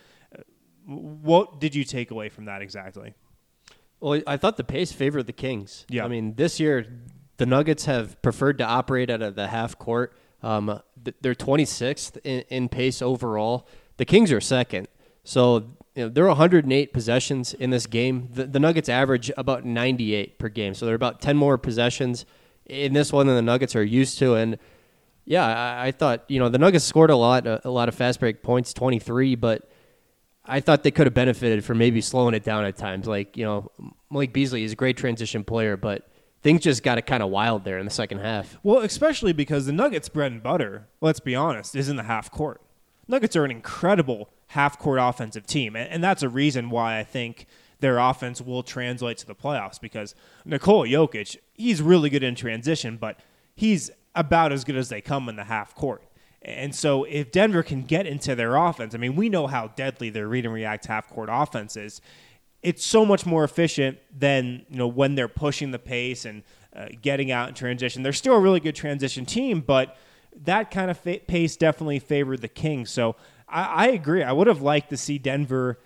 Speaker 4: What did you take away from that exactly?
Speaker 8: Well, I thought the pace favored the Kings.
Speaker 4: Yeah.
Speaker 8: I mean, this year, the Nuggets have preferred to operate out of the half court. Um, they're twenty-sixth in, in pace overall. The Kings are second. So, you know, there are one hundred eight possessions in this game. The, the Nuggets average about ninety-eight per game. So, there are about ten more possessions in this one than the Nuggets are used to. And, yeah, I, I thought, you know, the Nuggets scored a lot, a, a lot of fast break points, twenty-three, but I thought they could have benefited from maybe slowing it down at times. Like, you know, Malik Beasley is a great transition player, but things just got kind of wild there in the second half.
Speaker 4: Well, especially because the Nuggets' bread and butter, let's be honest, is in the half court. Nuggets are an incredible half-court offensive team, and, and that's a reason why I think their offense will translate to the playoffs, because Nikola Jokic, he's really good in transition, but he's about as good as they come in the half court. And so if Denver can get into their offense, I mean, we know how deadly their read and react half-court offense is. It's so much more efficient than, you know, when they're pushing the pace and uh, getting out in transition. They're still a really good transition team, but that kind of fa- pace definitely favored the Kings. So I, I agree. I would have liked to see Denver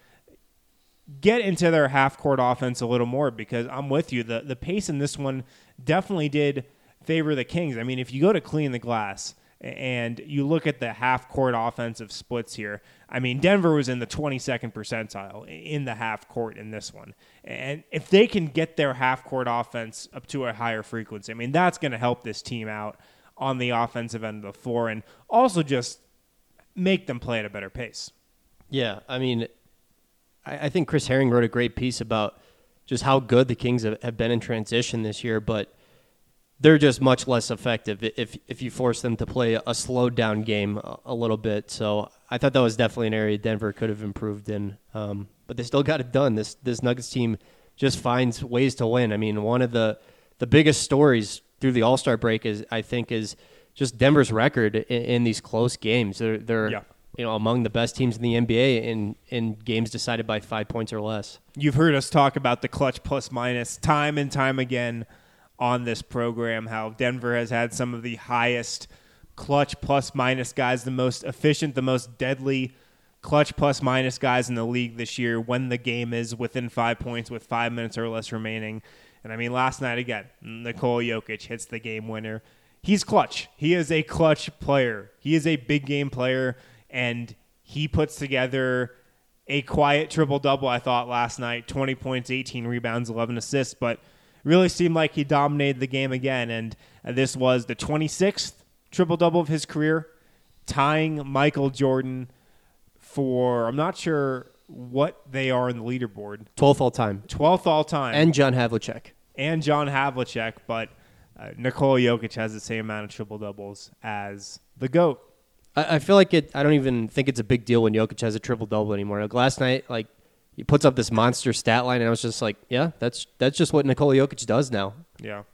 Speaker 4: get into their half-court offense a little more, because I'm with you. The, the pace in this one definitely did favor the Kings. I mean, if you go to clean the glass and you look at the half-court offensive splits here, I mean, Denver was in the twenty-second percentile in the half-court in this one. And if they can get their half-court offense up to a higher frequency, I mean, that's going to help this team out on the offensive end of the floor, and also just make them play at a better pace.
Speaker 8: Yeah, I mean, I, I think Chris Herring wrote a great piece about just how good the Kings have, have been in transition this year, but they're just much less effective if if you force them to play a slowed down game a, a little bit. So I thought that was definitely an area Denver could have improved in, um, but they still got it done. This this Nuggets team just finds ways to win. I mean, one of the the biggest stories through the All-Star break is, I think, is just Denver's record in, in these close games. They're they're yeah. you know among the best teams in the N B A in in games decided by five points or less.
Speaker 4: You've heard us talk about the clutch plus minus time and time again on this program, how Denver has had some of the highest clutch plus minus guys, the most efficient, the most deadly clutch plus minus guys in the league this year when the game is within five points with five minutes or less remaining. And I mean, last night again, Nikola Jokic hits the game winner. He's clutch. He is a clutch player. He is a big game player, and he puts together a quiet triple-double, I thought, last night. twenty points, eighteen rebounds, eleven assists, but really seemed like he dominated the game again. And this was the twenty-sixth triple-double of his career, tying Michael Jordan for, I'm not sure what they are in the leaderboard.
Speaker 8: twelfth all-time.
Speaker 4: twelfth all-time.
Speaker 8: And John Havlicek.
Speaker 4: And John Havlicek, but uh, Nikola Jokic has the same amount of triple-doubles as the GOAT.
Speaker 8: I, I feel like it. I don't even think it's a big deal when Jokic has a triple-double anymore. Like last night, like he puts up this monster stat line, and I was just like, yeah, that's that's just what Nikola Jokic does now.
Speaker 4: Yeah.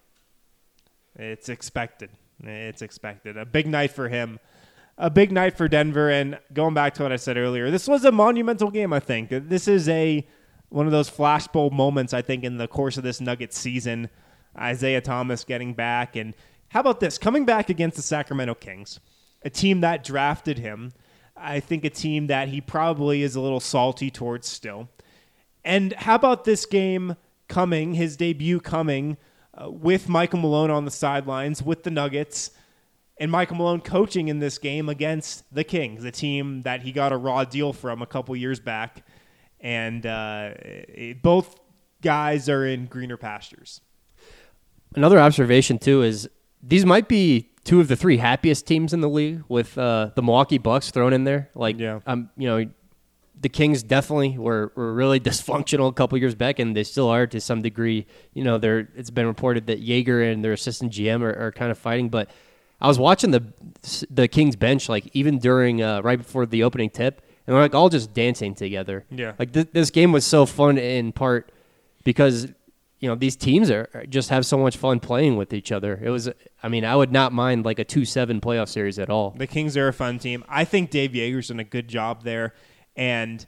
Speaker 4: It's expected. It's expected. A big night for him. A big night for Denver, and going back to what I said earlier, this was a monumental game, I think. This is a one of those flashbulb moments, I think, in the course of this Nuggets season. Isaiah Thomas getting back, and how about this? Coming back against the Sacramento Kings, a team that drafted him, I think a team that he probably is a little salty towards still. And how about this game coming, his debut coming, uh, with Michael Malone on the sidelines, with the Nuggets, and Michael Malone coaching in this game against the Kings, a team that he got a raw deal from a couple years back. And uh, it, both guys are in greener pastures.
Speaker 8: Another observation, too, is these might be two of the three happiest teams in the league with uh, the Milwaukee Bucks thrown in there. Like,
Speaker 4: yeah.
Speaker 8: um, you know, the Kings definitely were, were really dysfunctional a couple years back, and they still are to some degree. You know, they're, it's been reported that Jaeger and their assistant G M are, are kind of fighting, but I was watching the the Kings bench, like even during uh, right before the opening tip, and they're like all just dancing together.
Speaker 4: Yeah,
Speaker 8: like th- this game was so fun in part because you know these teams are just have so much fun playing with each other. It was, I mean, I would not mind like a two seven playoff series at all.
Speaker 4: The Kings are a fun team. I think Dave Yeager's done a good job there, and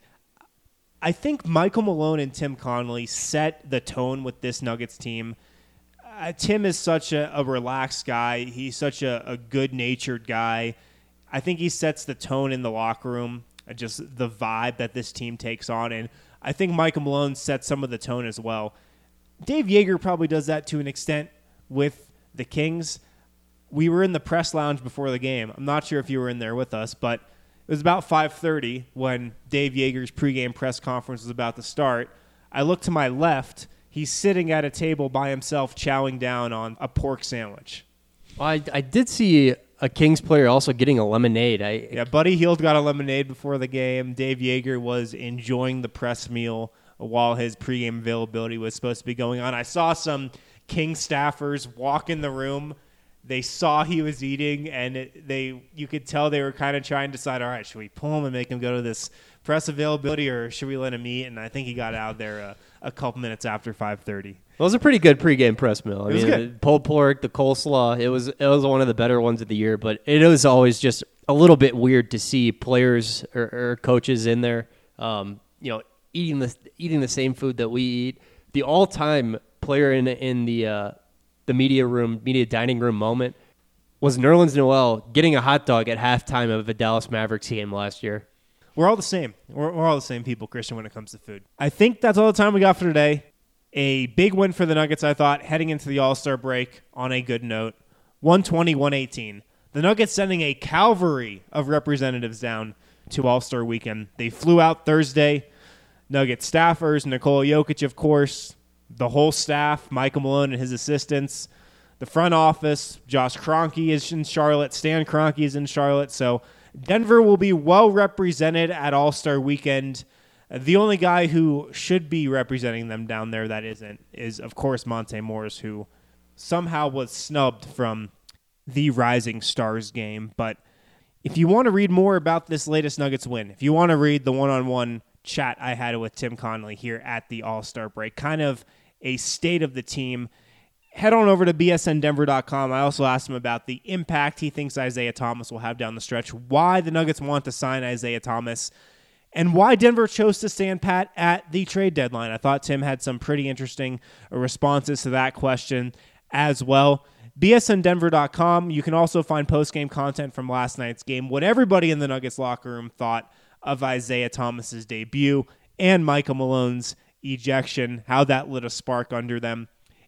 Speaker 4: I think Michael Malone and Tim Connolly set the tone with this Nuggets team. Uh, Tim is such a, a relaxed guy. He's such a, a good-natured guy. I think he sets the tone in the locker room, uh, just the vibe that this team takes on. And I think Michael Malone sets some of the tone as well. Dave Joerger probably does that to an extent with the Kings. We were in the press lounge before the game. I'm not sure if you were in there with us, but it was about five thirty when Dave Joerger's pregame press conference was about to start. I looked to my left. He's sitting at a table by himself chowing down on a pork sandwich.
Speaker 8: Well, I, I did see a Kings player also getting a lemonade. I,
Speaker 4: yeah, Buddy Hield got a lemonade before the game. Dave Joerger was enjoying the press meal while his pregame availability was supposed to be going on. I saw some Kings staffers walk in the room. They saw he was eating, and it, they you could tell they were kind of trying to decide, all right, should we pull him and make him go to this press availability, or should we let him eat? And I think he got out there a, a couple minutes after five thirty.
Speaker 8: It was a pretty good pregame press meal. I
Speaker 4: it was
Speaker 8: mean,
Speaker 4: good.
Speaker 8: The pulled pork, the coleslaw, it was it was one of the better ones of the year, but it was always just a little bit weird to see players or, or coaches in there, um, you know, eating the eating the same food that we eat. The all-time player in in the uh, the media room, media dining room moment was Nerlens Noel getting a hot dog at halftime of a Dallas Mavericks game last year.
Speaker 4: We're all the same. We're, we're all the same people, Christian, when it comes to food. I think that's all the time we got for today. A big win for the Nuggets, I thought, heading into the All-Star break on a good note. one twenty, one eighteen. The Nuggets sending a cavalry of representatives down to All-Star weekend. They flew out Thursday. Nuggets staffers, Nikola Jokic, of course, the whole staff, Michael Malone and his assistants, the front office, Josh Kroenke is in Charlotte, Stan Kroenke is in Charlotte. So Denver will be well represented at All-Star weekend. The only guy who should be representing them down there that isn't is, of course, Monte Morris, who somehow was snubbed from the Rising Stars game. But if you want to read more about this latest Nuggets win, if you want to read the one-on-one chat I had with Tim Connolly here at the All-Star break, kind of a state of the team, head on over to B S N Denver dot com. I also asked him about the impact he thinks Isaiah Thomas will have down the stretch, why the Nuggets want to sign Isaiah Thomas, and why Denver chose to stand pat at the trade deadline. I thought Tim had some pretty interesting responses to that question as well. B S N Denver dot com. You can also find post-game content from last night's game, what everybody in the Nuggets locker room thought of Isaiah Thomas's debut and Michael Malone's ejection, how that lit a spark under them.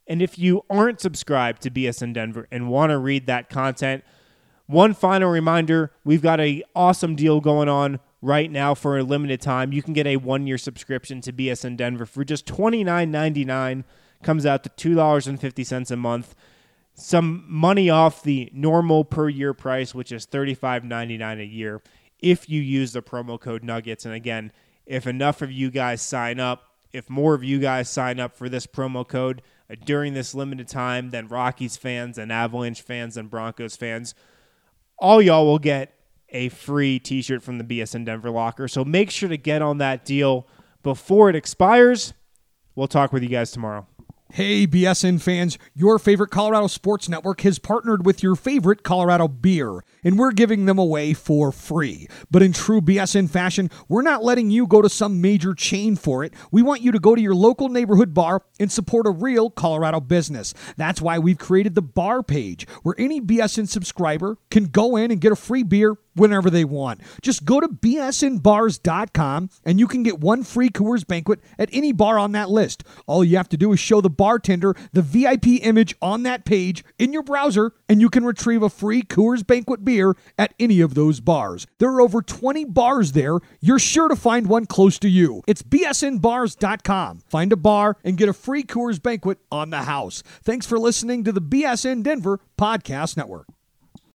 Speaker 4: And if you aren't subscribed to B S N Denver and want to read that content, one final reminder, we've got an awesome deal going on right now for a limited time. You can get a one-year subscription to B S N Denver for just twenty-nine ninety-nine. Comes out to two dollars and fifty cents a month. Some money off the normal per-year price, which is thirty-five ninety-nine a year, if you use the promo code Nuggets. And again, if enough of you guys sign up, if more of you guys sign up for this promo code uh, during this limited time, then Rockies fans and Avalanche fans and Broncos fans, all y'all will get a free t-shirt from the B S N Denver locker. So make sure to get on that deal before it expires. We'll talk with you guys tomorrow.
Speaker 11: Hey, B S N fans, your favorite Colorado Sports Network has partnered with your favorite Colorado beer, and we're giving them away for free. But in true B S N fashion, we're not letting you go to some major chain for it. We want you to go to your local neighborhood bar and support a real Colorado business. That's why we've created the bar page, where any B S N subscriber can go in and get a free beer whenever they want. Just go to B S N bars dot com and you can get one free Coors Banquet at any bar on that list. All you have to do is show the bartender the V I P image on that page in your browser, and you can retrieve a free Coors Banquet beer at any of those bars. There are over twenty bars there. You're sure to find one close to you. It's B S N bars dot com. Find a bar and get a free Coors Banquet on the house. Thanks for listening to the B S N Denver Podcast Network.